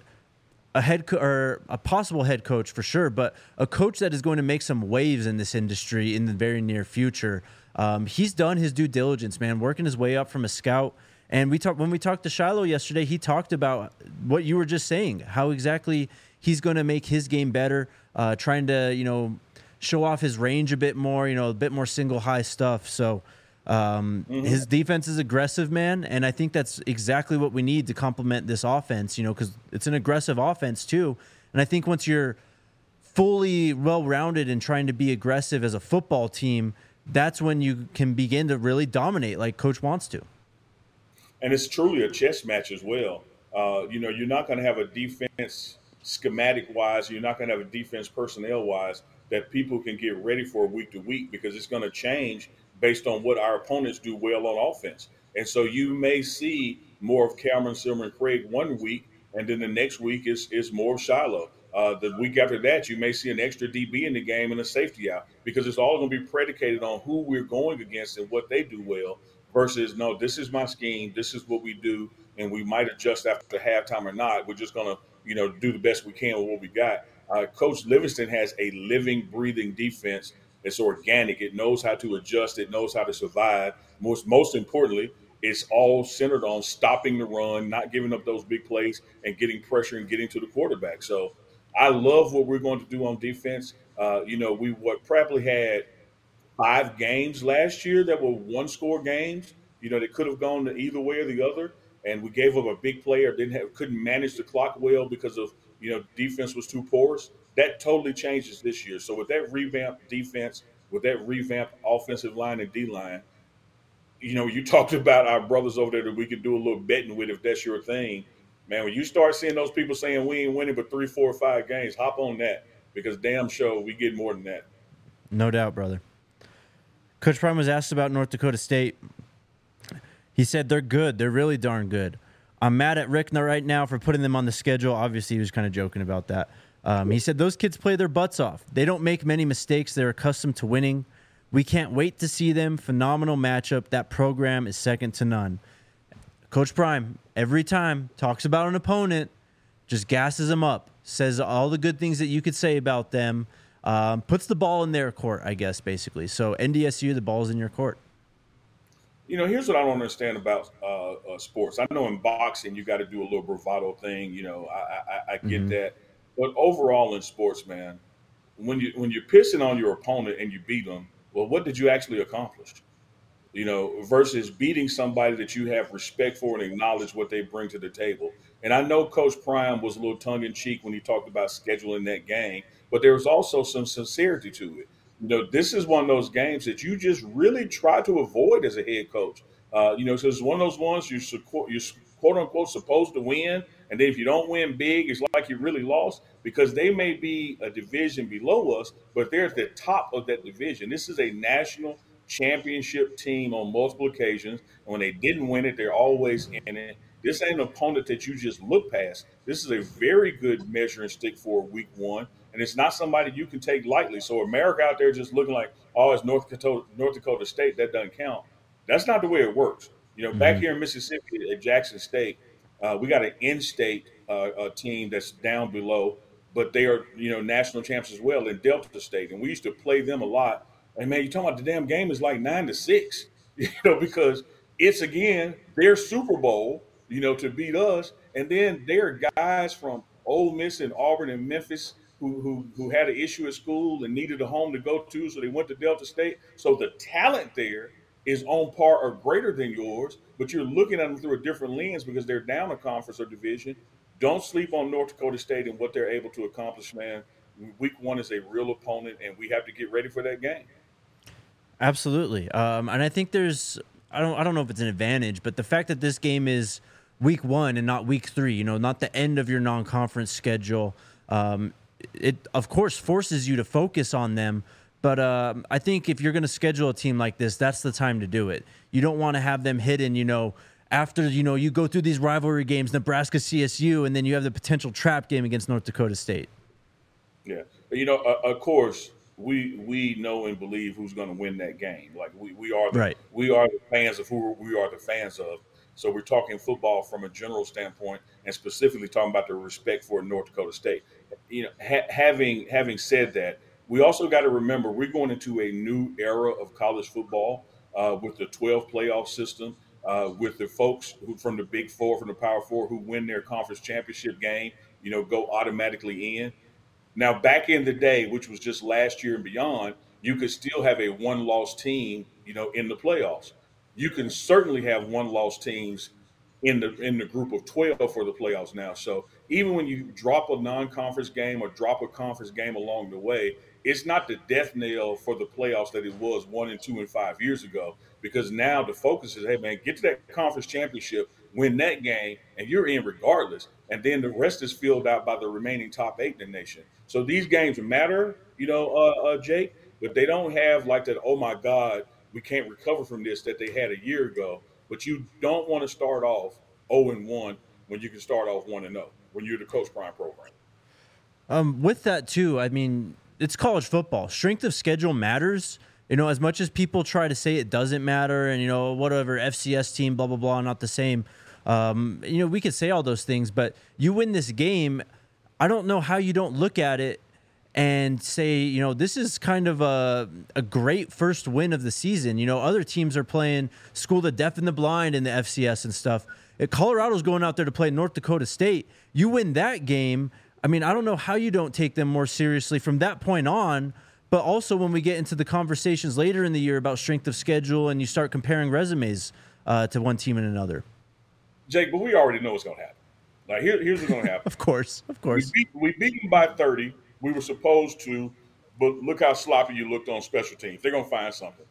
or a possible head coach for sure, but a coach that is going to make some waves in this industry in the very near future. He's done his due diligence, man, working his way up from a scout. And when we talked to Shiloh yesterday, he talked about what you were just saying, how exactly he's going to make his game better, trying to, show off his range a bit more, a bit more single high stuff. So his defense is aggressive, man, and I think that's exactly what we need to complement this offense, because it's an aggressive offense too. And I think once you're fully well-rounded and trying to be aggressive as a football team, that's when you can begin to really dominate like Coach wants to. And it's truly a chess match as well. You're not going to have a defense schematic-wise, you're not going to have a defense personnel-wise that people can get ready for week to week because it's going to change based on what our opponents do well on offense. And so you may see more of Cameron Silver and Craig one week, and then the next week is more of Shiloh. The week after that, you may see an extra DB in the game and a safety out because it's all going to be predicated on who we're going against and what they do well versus, no, this is my scheme, this is what we do, and we might adjust after halftime or not. We're just going to, do the best we can with what we got. Coach Livingston has a living, breathing defense. It's organic. It knows how to adjust. It knows how to survive. Most importantly, it's all centered on stopping the run, not giving up those big plays, and getting pressure and getting to the quarterback. So I love what we're going to do on defense. We probably had 5 games last year that were one-score games. They could have gone to either way or the other, and we gave up a big play or couldn't manage the clock well because of defense was too porous. That totally changes this year. So with that revamped defense, with that revamped offensive line and D-line, you talked about our brothers over there that we could do a little betting with if that's your thing. Man, when you start seeing those people saying we ain't winning but 3, 4, or 5 games, hop on that because damn sure we get more than that. No doubt, brother. Coach Prime was asked about North Dakota State. He said they're good. They're really darn good. I'm mad at Rick right now for putting them on the schedule. Obviously, he was kind of joking about that. He said those kids play their butts off. They don't make many mistakes. They're accustomed to winning. We can't wait to see them. Phenomenal matchup. That program is second to none. Coach Prime, every time, talks about an opponent, just gasses them up, says all the good things that you could say about them, puts the ball in their court, I guess, basically. So NDSU, the ball's in your court. You know, here's what I don't understand about sports. I know in boxing you got to do a little bravado thing. You know, I get that, but overall in sports, man, when you're pissing on your opponent and you beat them, well, what did you actually accomplish? You know, versus beating somebody that you have respect for and acknowledge what they bring to the table. And I know Coach Prime was a little tongue in cheek when he talked about scheduling that game, but there was also some sincerity to it. You know, this is one of those games that you just really try to avoid as a head coach. You know, so it's one of those ones you're quote unquote supposed to win. And then if you don't win big, it's like you really lost because they may be a division below us, but they're at the top of that division. This is a national championship team on multiple occasions. And when they didn't win it, they're always in it. This ain't an opponent that you just look past. This is a very good measuring stick for week one. And it's not somebody you can take lightly. So America out there just looking like, oh, it's North Dakota State. That doesn't count. That's not the way it works. You know, back here in Mississippi at Jackson State, we got an in-state team that's down below, but they are, you know, national champs as well in Delta State. And we used to play them a lot. And, man, you're talking about the damn game is like 9-6, you know, because it's, again, their Super Bowl, you know, to beat us. And then there are guys from Ole Miss and Auburn and Memphis who had an issue at school and needed a home to go to, so they went to Delta State. So the talent there is on par or greater than yours, but you're looking at them through a different lens because they're down a conference or division. Don't sleep on North Dakota State and what they're able to accomplish, man. Week one is a real opponent, and we have to get ready for that game. Absolutely. And I think there's, I don't know if it's an advantage, but the fact that this game is week one and not week 3, you know, not the end of your non-conference schedule, it of course forces you to focus on them. But I think if you're going to schedule a team like this, that's the time to do it. You don't want to have them hidden, you know, after, you know, you go through these rivalry games, Nebraska, CSU, and then you have the potential trap game against North Dakota State. Yeah. You know, of course, we know and believe who's going to win that game. Like we are the fans of who we are the fans of. So we're talking football from a general standpoint and specifically talking about the respect for North Dakota State. You know, having said that, we also got to remember we're going into a new era of college football with the 12 playoff system, with the folks who from the Big Four, from the Power Four, who win their conference championship game, you know, go automatically in. Now, back in the day, which was just last year and beyond, you could still have a one-loss team, you know, in the playoffs. You can certainly have one-loss teams in the group of 12 for the playoffs now. So even when you drop a non-conference game or drop a conference game along the way, it's not the death knell for the playoffs that it was 1 and 2 and 5 years ago, because now the focus is, hey, man, get to that conference championship, win that game, and you're in regardless. And then the rest is filled out by the remaining top 8 in the nation. So these games matter, you know, Jake, but they don't have like that, oh, my God, we can't recover from this that they had a year ago. But you don't want to start off 0-1 when you can start off 1-0 when you're the Coach Prime program. With that, too, I mean, it's college football. Strength of schedule matters. You know, as much as people try to say it doesn't matter and, you know, whatever, FCS team, blah, blah, blah, not the same. You know, we could say all those things, but you win this game, I don't know how you don't look at it and say, you know, this is kind of a great first win of the season. You know, other teams are playing School of the Deaf and the Blind in the FCS and stuff. Colorado's going out there to play North Dakota State. You win that game. I mean, I don't know how you don't take them more seriously from that point on, but also when we get into the conversations later in the year about strength of schedule and you start comparing resumes to one team and another. Jake, but we already know what's going to happen. Like, here's what's going to happen. Of course. We beat them by 30. We were supposed to, but look how sloppy you looked on special teams. They're going to find something.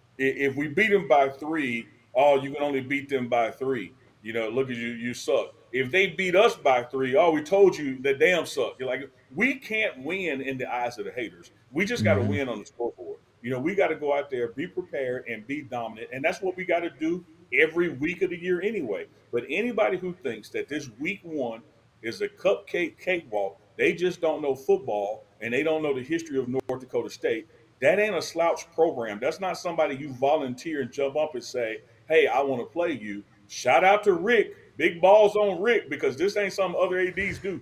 If we beat them by 3, oh, you can only beat them by 3. You know, look at you suck. if they beat us by 3, oh, we told you that damn suck. You're like, we can't win in the eyes of the haters. We just got to Mhm. win on the scoreboard. We got to go out there, be prepared, and be dominant. And that's what we got to do every week of the year anyway. But anybody who thinks that this week one is a cupcake cakewalk, they just don't know football and they don't know the history of North Dakota State. That ain't a slouch program. That's not somebody you volunteer and jump up and say, hey, I want to play you. Shout out to Rick. Big balls on Rick, because this ain't something other ADs do.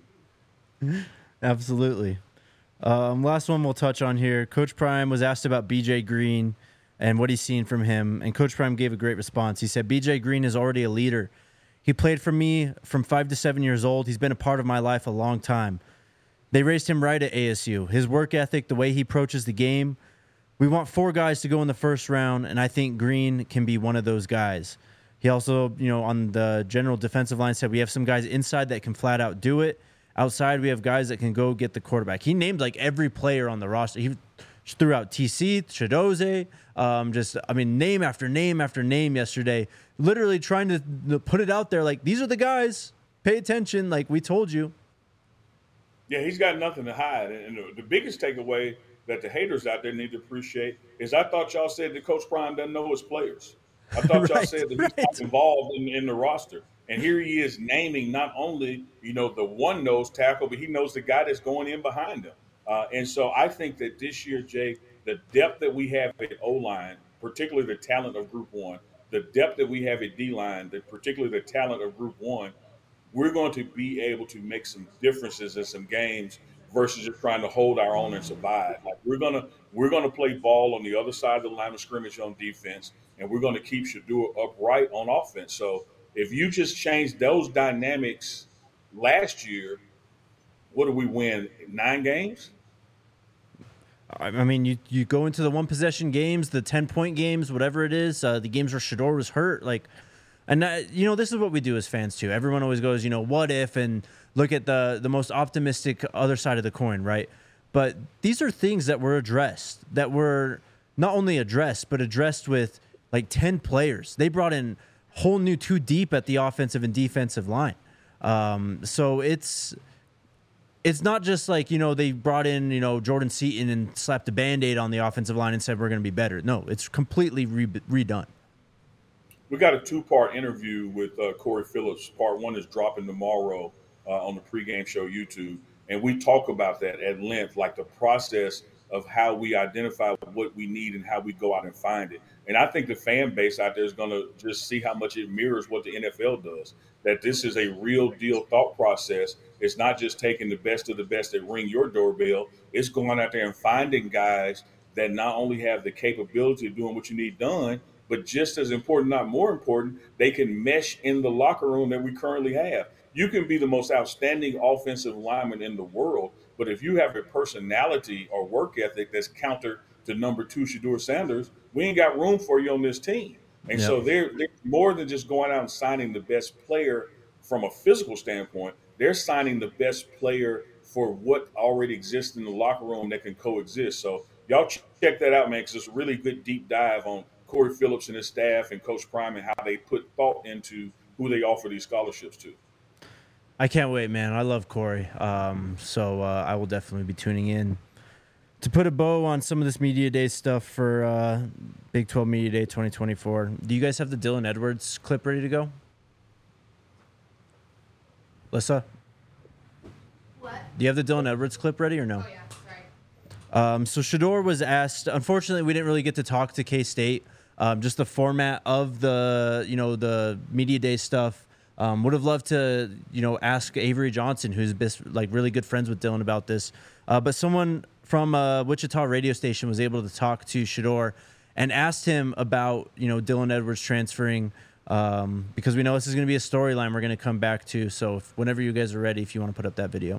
Absolutely. Last one we'll touch on here. Coach Prime was asked about BJ Green and what he's seen from him, and Coach Prime gave a great response. He said, BJ Green is already a leader. He played for me from 5 to 7 years old. He's been a part of my life a long time. They raised him right at ASU. His work ethic, the way he approaches the game. We want 4 guys to go in the first round, and I think Green can be one of those guys. He also, on the general defensive line said we have some guys inside that can flat out do it. Outside, we have guys that can go get the quarterback. He named like every player on the roster. He threw out TC, Chidoze, name after name after name yesterday, literally trying to put it out there like, these are the guys. Pay attention, like we told you. Yeah, he's got nothing to hide. And the biggest takeaway that the haters out there need to appreciate is I thought y'all said that Coach Prime doesn't know his players. I thought y'all said that he's not involved in the roster. And here he is naming not only, the one nose tackle, but he knows the guy that's going in behind him. And so I think that this year, Jake, the depth that we have at O-line, particularly the talent of Group 1, the depth that we have at D-line, particularly the talent of Group 1, we're going to be able to make some differences in some games versus just trying to hold our own and survive. Like we're gonna play ball on the other side of the line of scrimmage on defense, and we're going to keep Shedeur upright on offense. So if you just change those dynamics last year, what do we win? 9 games? I mean, you go into the 1-possession games, the 10-point games, whatever it is, the games where Shedeur was hurt, like. And, this is what we do as fans, too. Everyone always goes, what if, and look at the most optimistic other side of the coin, right? But these are things that were addressed, that were not only addressed, but addressed with, 10 players. They brought in whole new 2 deep at the offensive and defensive line. So it's not just they brought in, Jordan Seaton and slapped a Band-Aid on the offensive line and said we're going to be better. No, it's completely redone. We got a 2-part interview with Corey Phillips. Part 1 is dropping tomorrow on the pregame show YouTube. And we talk about that at length, like the process of how we identify what we need and how we go out and find it. And I think the fan base out there is going to just see how much it mirrors what the NFL does, that this is a real deal thought process. It's not just taking the best of the best that ring your doorbell. It's going out there and finding guys that not only have the capability of doing what you need done, but just as important, not more important, they can mesh in the locker room that we currently have. You can be the most outstanding offensive lineman in the world, but if you have a personality or work ethic that's counter to number 2 Shedeur Sanders, we ain't got room for you on this team. And so they're more than just going out and signing the best player from a physical standpoint. They're signing the best player for what already exists in the locker room that can coexist. So y'all check that out, man, because it's a really good deep dive on Corey Phillips and his staff and Coach Prime and how they put thought into who they offer these scholarships to. I can't wait, man. I love Corey. So I will definitely be tuning in to put a bow on some of this Media Day stuff for Big 12 Media Day 2024. Do you guys have the Dylan Edwards clip ready to go? Lissa? What? Do you have the Dylan Edwards clip ready or no? Oh, yeah. Sorry. So Shedeur was asked. Unfortunately, we didn't really get to talk to K-State. Just the format of the the Media Day stuff. Would have loved to ask Avery Johnson, who's really good friends with Dylan, about this. But someone from a Wichita radio station was able to talk to Shedeur and asked him about Dylan Edwards transferring, because we know this is going to be a storyline we're going to come back to. So whenever you guys are ready, if you want to put up that video.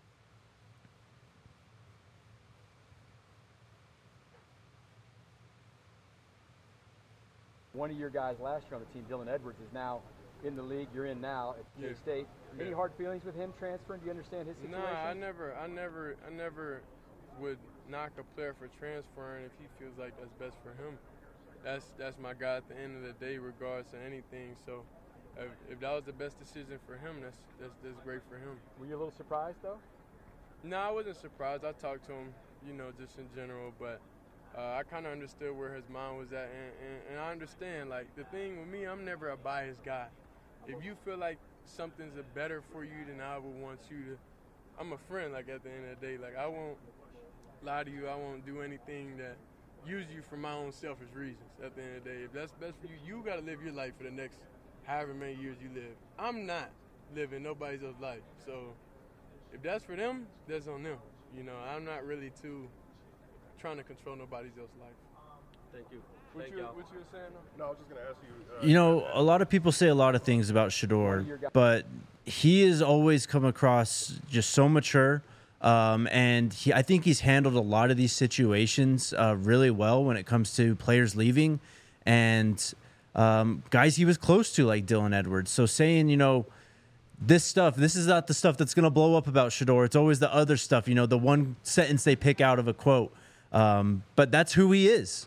One of your guys last year on the team, Dylan Edwards, is now in the league you're in now at K-State. Any hard feelings with him transferring? Do you understand his situation? Nah, I never would knock a player for transferring if he feels like that's best for him. That's my guy at the end of the day, regardless of anything. So If that was the best decision for him, that's great for him. Were you a little surprised though? No, I wasn't surprised. I talked to him, just in general, but I kind of understood where his mind was at, and I understand. Like, the thing with me, I'm never a biased guy. If you feel like something's better for you, then I would want you to. I'm a friend. Like, at the end of the day, like, I won't lie to you. I won't do anything that use you for my own selfish reasons. At the end of the day, if that's best for you, you got to live your life for the next however many years you live. I'm not living nobody else's life, so. If that's for them, that's on them. I'm not really too trying to control nobody else's life. Thank you. What you were saying? No, I was just going to ask you. A lot of people say a lot of things about Shedeur, but he has always come across just so mature. And I think he's handled a lot of these situations really well when it comes to players leaving and guys he was close to, like Dylan Edwards. So saying, this is not the stuff that's going to blow up about Shedeur. It's always the other stuff, the one sentence they pick out of a quote. But that's who he is.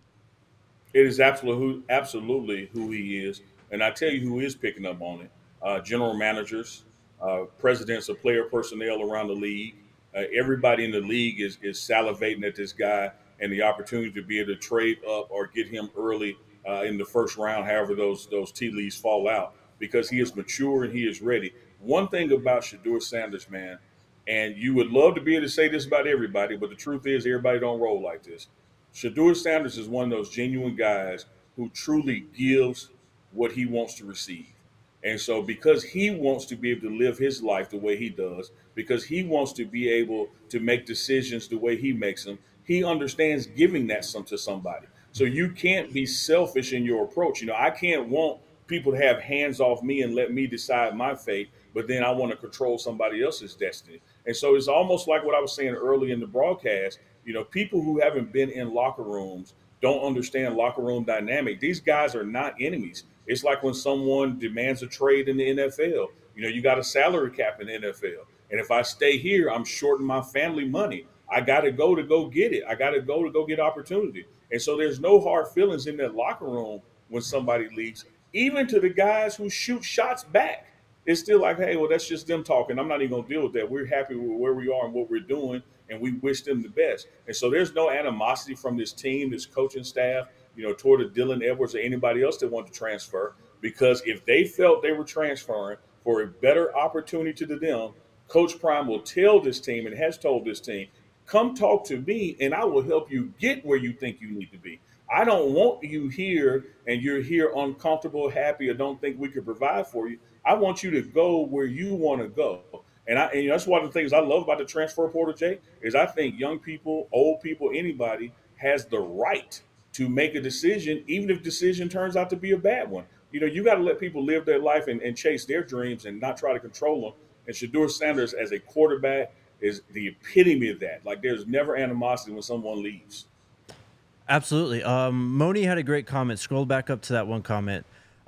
It is absolutely who he is. And I tell you who is picking up on it. General managers, presidents of player personnel around the league. Everybody in the league is salivating at this guy and the opportunity to be able to trade up or get him early in the first round, however those tea leaves fall out, because he is mature and he is ready. One thing about Shedeur Sanders, man, and you would love to be able to say this about everybody, but the truth is everybody don't roll like this. Shedeur Sanders is one of those genuine guys who truly gives what he wants to receive. And so because he wants to be able to live his life the way he does, because he wants to be able to make decisions the way he makes them, he understands giving that to somebody. So you can't be selfish in your approach. I can't want people to have hands off me and let me decide my fate, but then I want to control somebody else's destiny. And so it's almost like what I was saying early in the broadcast. People who haven't been in locker rooms don't understand locker room dynamic. These guys are not enemies. It's like when someone demands a trade in the NFL. You got a salary cap in the NFL. And if I stay here, I'm shorting my family money. I got to go get it. I got to go get opportunity. And so there's no hard feelings in that locker room when somebody leaves. Even to the guys who shoot shots back, it's still like, hey, well, that's just them talking. I'm not even going to deal with that. We're happy with where we are and what we're doing, and we wish them the best. And so there's no animosity from this team, this coaching staff, toward a Dylan Edwards or anybody else that wanted to transfer, because if they felt they were transferring for a better opportunity to them, Coach Prime will tell this team and has told this team, come talk to me and I will help you get where you think you need to be. I don't want you here and you're here uncomfortable, happy, or don't think we could provide for you. I want you to go where you want to go. And that's one of the things I love about the transfer portal, Jay, is I think young people, old people, anybody has the right to make a decision, even if the decision turns out to be a bad one. You got to let people live their life and chase their dreams and not try to control them. And Shedeur Sanders as a quarterback is the epitome of that. Like, there's never animosity when someone leaves. Absolutely. Moni had a great comment. Scroll back up to that one comment.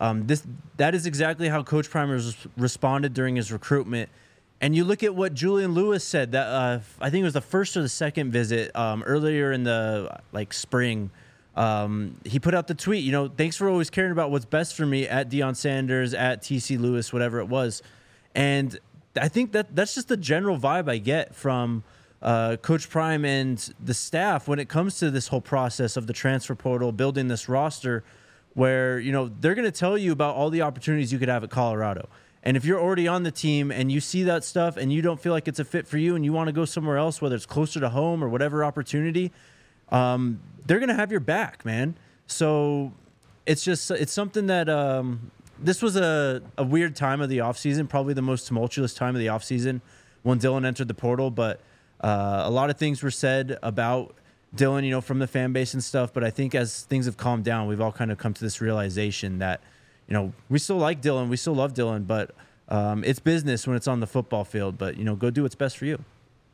That is exactly how Coach Prime responded during his recruitment. And you look at what Julian Lewis said. That I think it was the first or the second visit earlier in the spring. He put out the tweet. Thanks for always caring about what's best for me at Deion Sanders, at TC Lewis, whatever it was. And I think that's just the general vibe I get from Coach Prime and the staff when it comes to this whole process of the transfer portal, building this roster, where they're going to tell you about all the opportunities you could have at Colorado. And if you're already on the team and you see that stuff and you don't feel like it's a fit for you and you want to go somewhere else, whether it's closer to home or whatever opportunity, they're going to have your back, man. So it's something that this was a weird time of the offseason, probably the most tumultuous time of the offseason when Dylan entered the portal. But a lot of things were said about Dylan, from the fan base and stuff. But I think as things have calmed down, we've all kind of come to this realization that, we still like Dylan. We still love Dylan. But it's business when it's on the football field. But, go do what's best for you.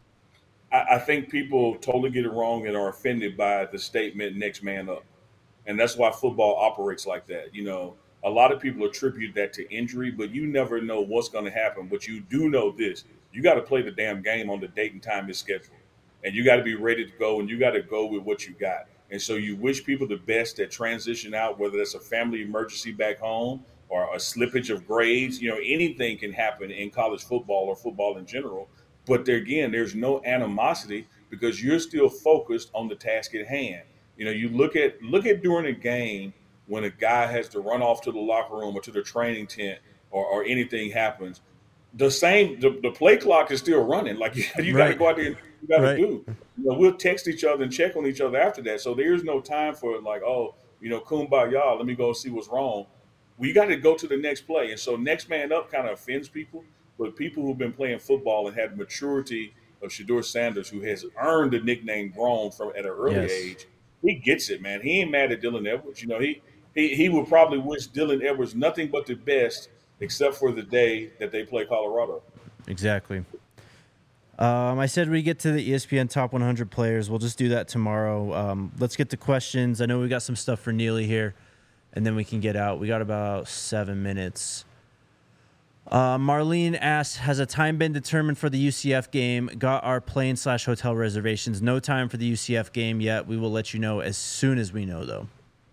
I think people totally get it wrong and are offended by the statement, next man up. And that's why football operates like that. A lot of people attribute that to injury, but you never know what's going to happen. But you do know this. You got to play the damn game on the date and time it's scheduled. And you got to be ready to go, and you got to go with what you got. And so you wish people the best that transition out, whether that's a family emergency back home, or a slippage of grades. Anything can happen in college football or football in general. But there again, there's no animosity because you're still focused on the task at hand. You look at during a game when a guy has to run off to the locker room or to the training tent or anything happens. The play clock is still running. Like you got to Right. go out there and you got to Right. do. We'll text each other and check on each other after that. So there's no time for like, oh, kumbaya, let me go see what's wrong. We got to go to the next play. And so next man up kind of offends people, but people who've been playing football and had the maturity of Shedeur Sanders, who has earned the nickname grown from at an early Yes. age, he gets it, man. He ain't mad at Dylan Edwards. He would probably wish Dylan Edwards nothing but the best, except for the day that they play Colorado. Exactly. I said we get to the ESPN Top 100 players. We'll just do that tomorrow. Let's get to questions. I know we got some stuff for Neely here, and then we can get out. We got about 7 minutes. Marlene asks, has a time been determined for the UCF game? Got our plane/hotel reservations. No time for the UCF game yet. We will let you know as soon as we know, though.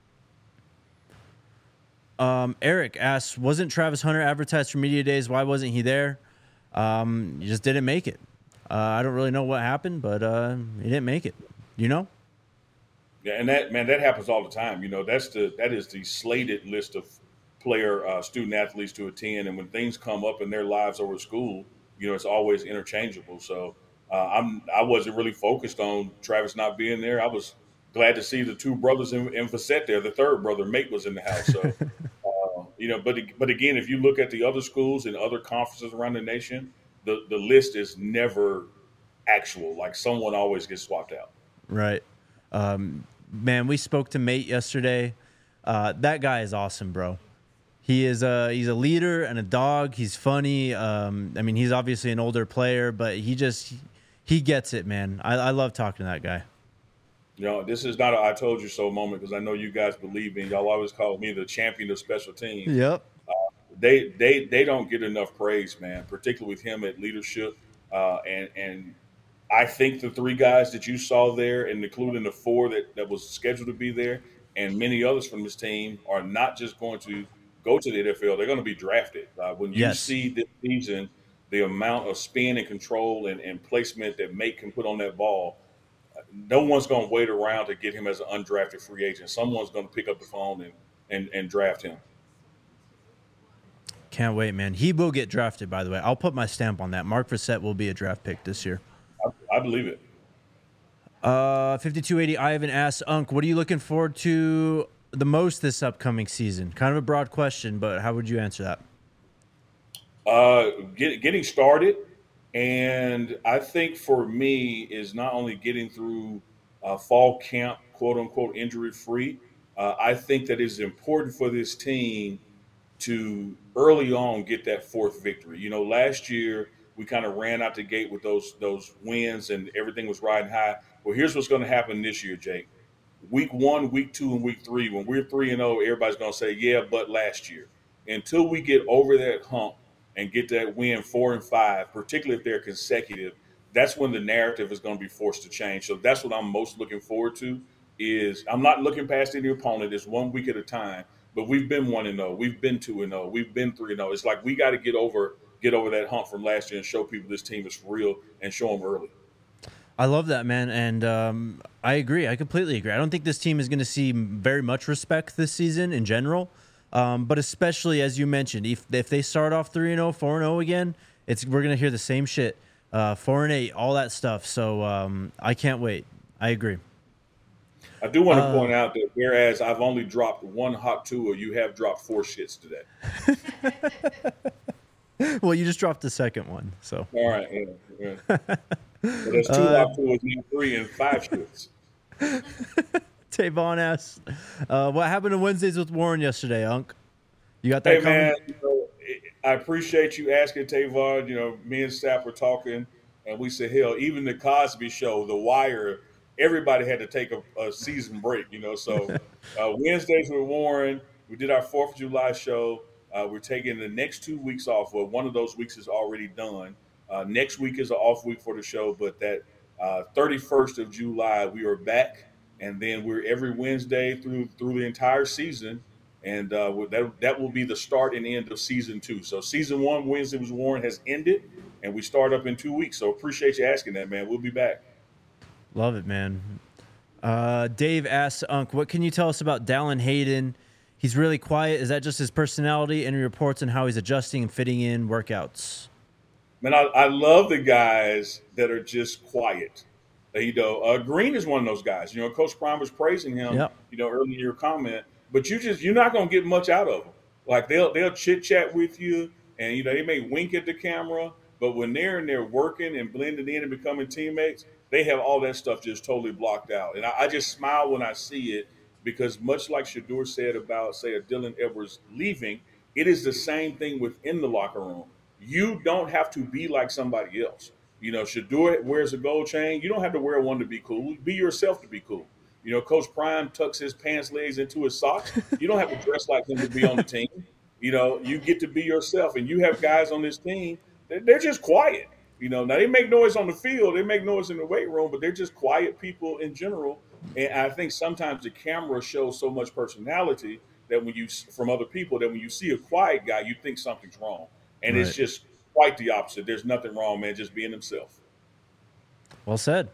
Eric asks, wasn't Travis Hunter advertised for media days? Why wasn't he there? He just didn't make it. I don't really know what happened, but he didn't make it. You know? Yeah, and that happens all the time. That is the slated list of player student athletes to attend, and when things come up in their lives over school, it's always interchangeable. So I wasn't really focused on Travis not being there. I was glad to see the two brothers in Facette there. The third brother, Mate, was in the house. So but again, if you look at the other schools and other conferences around the nation, the list is never actual. Like someone always gets swapped out. Right. Man, we spoke to Mate yesterday. That guy is awesome, bro. He's a leader and a dog. He's funny. He's obviously an older player, but he gets it, man. I love talking to that guy. This is not a I told you so moment because I know you guys believe me. Y'all always call me the champion of special teams. Yep. They don't get enough praise, man, particularly with him at leadership. And I think the three guys that you saw there, and including the four that was scheduled to be there, and many others from this team are not just going to go to the NFL. They're going to be drafted. When you see this season, the amount of spin and control and placement that Mate can put on that ball, no one's going to wait around to get him as an undrafted free agent. Someone's going to pick up the phone and draft him. Can't wait, man. He will get drafted, by the way. I'll put my stamp on that. Mark Facette will be a draft pick this year. I believe it. 5280 Ivan asks, Unc, what are you looking forward to the most this upcoming season? Kind of a broad question, but how would you answer that? Getting started. And I think for me is not only getting through fall camp, quote unquote, injury free. I think that it's important for this team to early on get that fourth victory. Last year we kind of ran out the gate with those wins and everything was riding high. Well, here's what's going to happen this year, Jake. Week 1, week 2, and week 3, when we're 3-0, everybody's going to say, yeah, but last year. Until we get over that hump and get that win 4 and 5, particularly if they're consecutive, that's when the narrative is going to be forced to change. So that's what I'm most looking forward to. Is I'm not looking past any opponent. It's 1 week at a time. But we've been 1-0. We've been 2-0. We've been 3-0. It's like we got to get over that hump from last year and show people this team is for real and show them early. I love that, man, and I agree. I completely agree. I don't think this team is going to see very much respect this season in general, but especially as you mentioned, if they start off 3-0, 4-0 again, we're going to hear the same shit, 4-8, all that stuff. So I can't wait. I agree. I do want to point out that whereas I've only dropped 1 hot Tua, you have dropped 4 shits today. Well, you just dropped the second one, so. All right. Yeah. Well, there's 2 hot Tuas, and 3 and 5 shits. Tavon asks, what happened to Wednesdays with Warren yesterday, Unc? You got that coming? Man, I appreciate you asking, Tavon. Me and Sapp were talking, and we said, hell, even the Cosby Show, The Wire, everybody had to take a season break, So Wednesdays with Warren, we did our 4th of July show. We're taking the next 2 weeks off. Well, one of those weeks is already done. Next week is an off week for the show, but that 31st of July, we are back. And then we're every Wednesday through the entire season. And that will be the start and end of season 2. So season 1, Wednesday Was Warren, has ended, and we start up in 2 weeks. So appreciate you asking that, man. We'll be back. Love it, man. Dave asks, Unc, what can you tell us about Dallin Hayden? He's really quiet. Is that just his personality? Any reports on how he's adjusting and fitting in workouts? Man, I love the guys that are just quiet. Green is one of those guys. Coach Prime was praising him, early in your comment. But you're not going to get much out of them. Like they'll chit chat with you, and they may wink at the camera. But when they're in there working and blending in and becoming teammates, they have all that stuff just totally blocked out. And I just smile when I see it, because much like Shedeur said about, say, a Dylan Edwards leaving, it is the same thing within the locker room. You don't have to be like somebody else. Shedeur wears a gold chain. You don't have to wear one to be cool. Be yourself to be cool. Coach Prime tucks his pants legs into his socks. You don't have to dress like him to be on the team. You get to be yourself. And you have guys on this team, they're just quiet. Now they make noise on the field, they make noise in the weight room, but they're just quiet people in general. And I think sometimes the camera shows so much personality that from other people, that when you see a quiet guy, you think something's wrong. And It's just quite the opposite. There's nothing wrong, man, just being himself. Well said.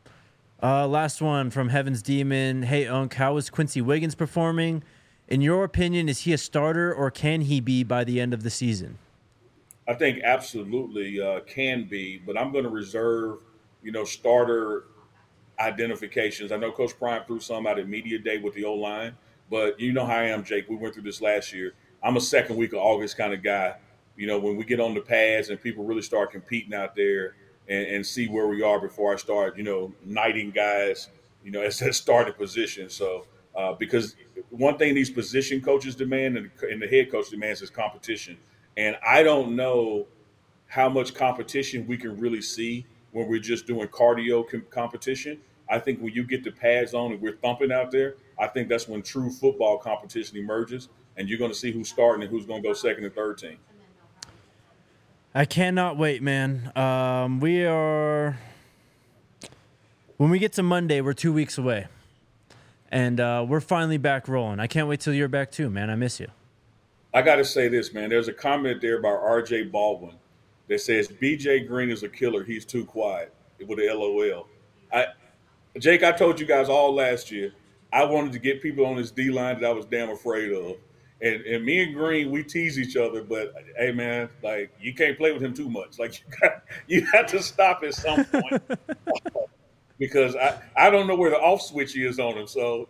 Last one from Heaven's Demon. Hey, Unc, how is Quincy Wiggins performing? In your opinion, is he a starter, or can he be by the end of the season? I think absolutely can be, but I'm going to reserve, starter identifications. I know Coach Prime threw some out at media day with the O-line, but you know how I am, Jake. We went through this last year. I'm a second week of August kind of guy. When we get on the pads and people really start competing out there and see where we are before I start, knighting guys, as that starting position. So because one thing these position coaches demand and the head coach demands is competition. And I don't know how much competition we can really see when we're just doing cardio competition. I think when you get the pads on and we're thumping out there, I think that's when true football competition emerges, and you're going to see who's starting and who's going to go second and third team. I cannot wait, man. When we get to Monday, we're 2 weeks away, and we're finally back rolling. I can't wait till you're back too, man. I miss you. I got to say this, man. There's a comment there by R.J. Baldwin that says, BJ Green is a killer. He's too quiet, with a LOL. Jake, I told you guys all last year, I wanted to get people on this D-line that I was damn afraid of. And me and Green, we tease each other, but, hey, man, like, you can't play with him too much. Like, you have to stop at some point. Because I don't know where the off switch is on him. So,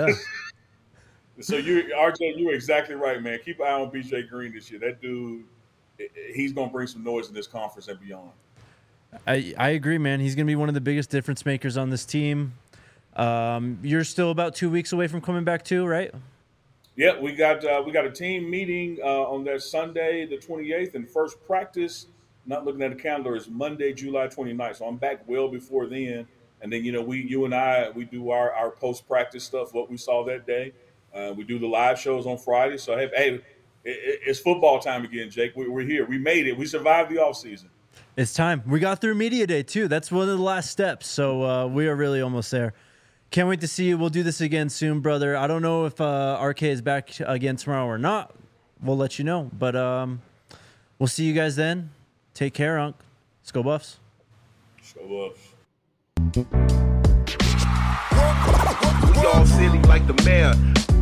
So RJ, you're exactly right, man. Keep an eye on BJ Green this year. That dude, he's going to bring some noise in this conference and beyond. I agree, man. He's going to be one of the biggest difference makers on this team. You're still about 2 weeks away from coming back too, right? Yeah, we got a team meeting on that Sunday, the 28th, and first practice, not looking at the calendar, is Monday, July 29th. So I'm back well before then. And then, you and I, we do our post-practice stuff, what we saw that day. We do the live shows on Friday. So, hey, it's football time again, Jake. We're here. We made it. We survived the offseason. It's time. We got through media day, too. That's one of the last steps. So we are really almost there. Can't wait to see you. We'll do this again soon, brother. I don't know if RK is back again tomorrow or not. We'll let you know. But we'll see you guys then. Take care, Unc. Let's go Buffs. Let's go Buffs. We all silly like the mayor.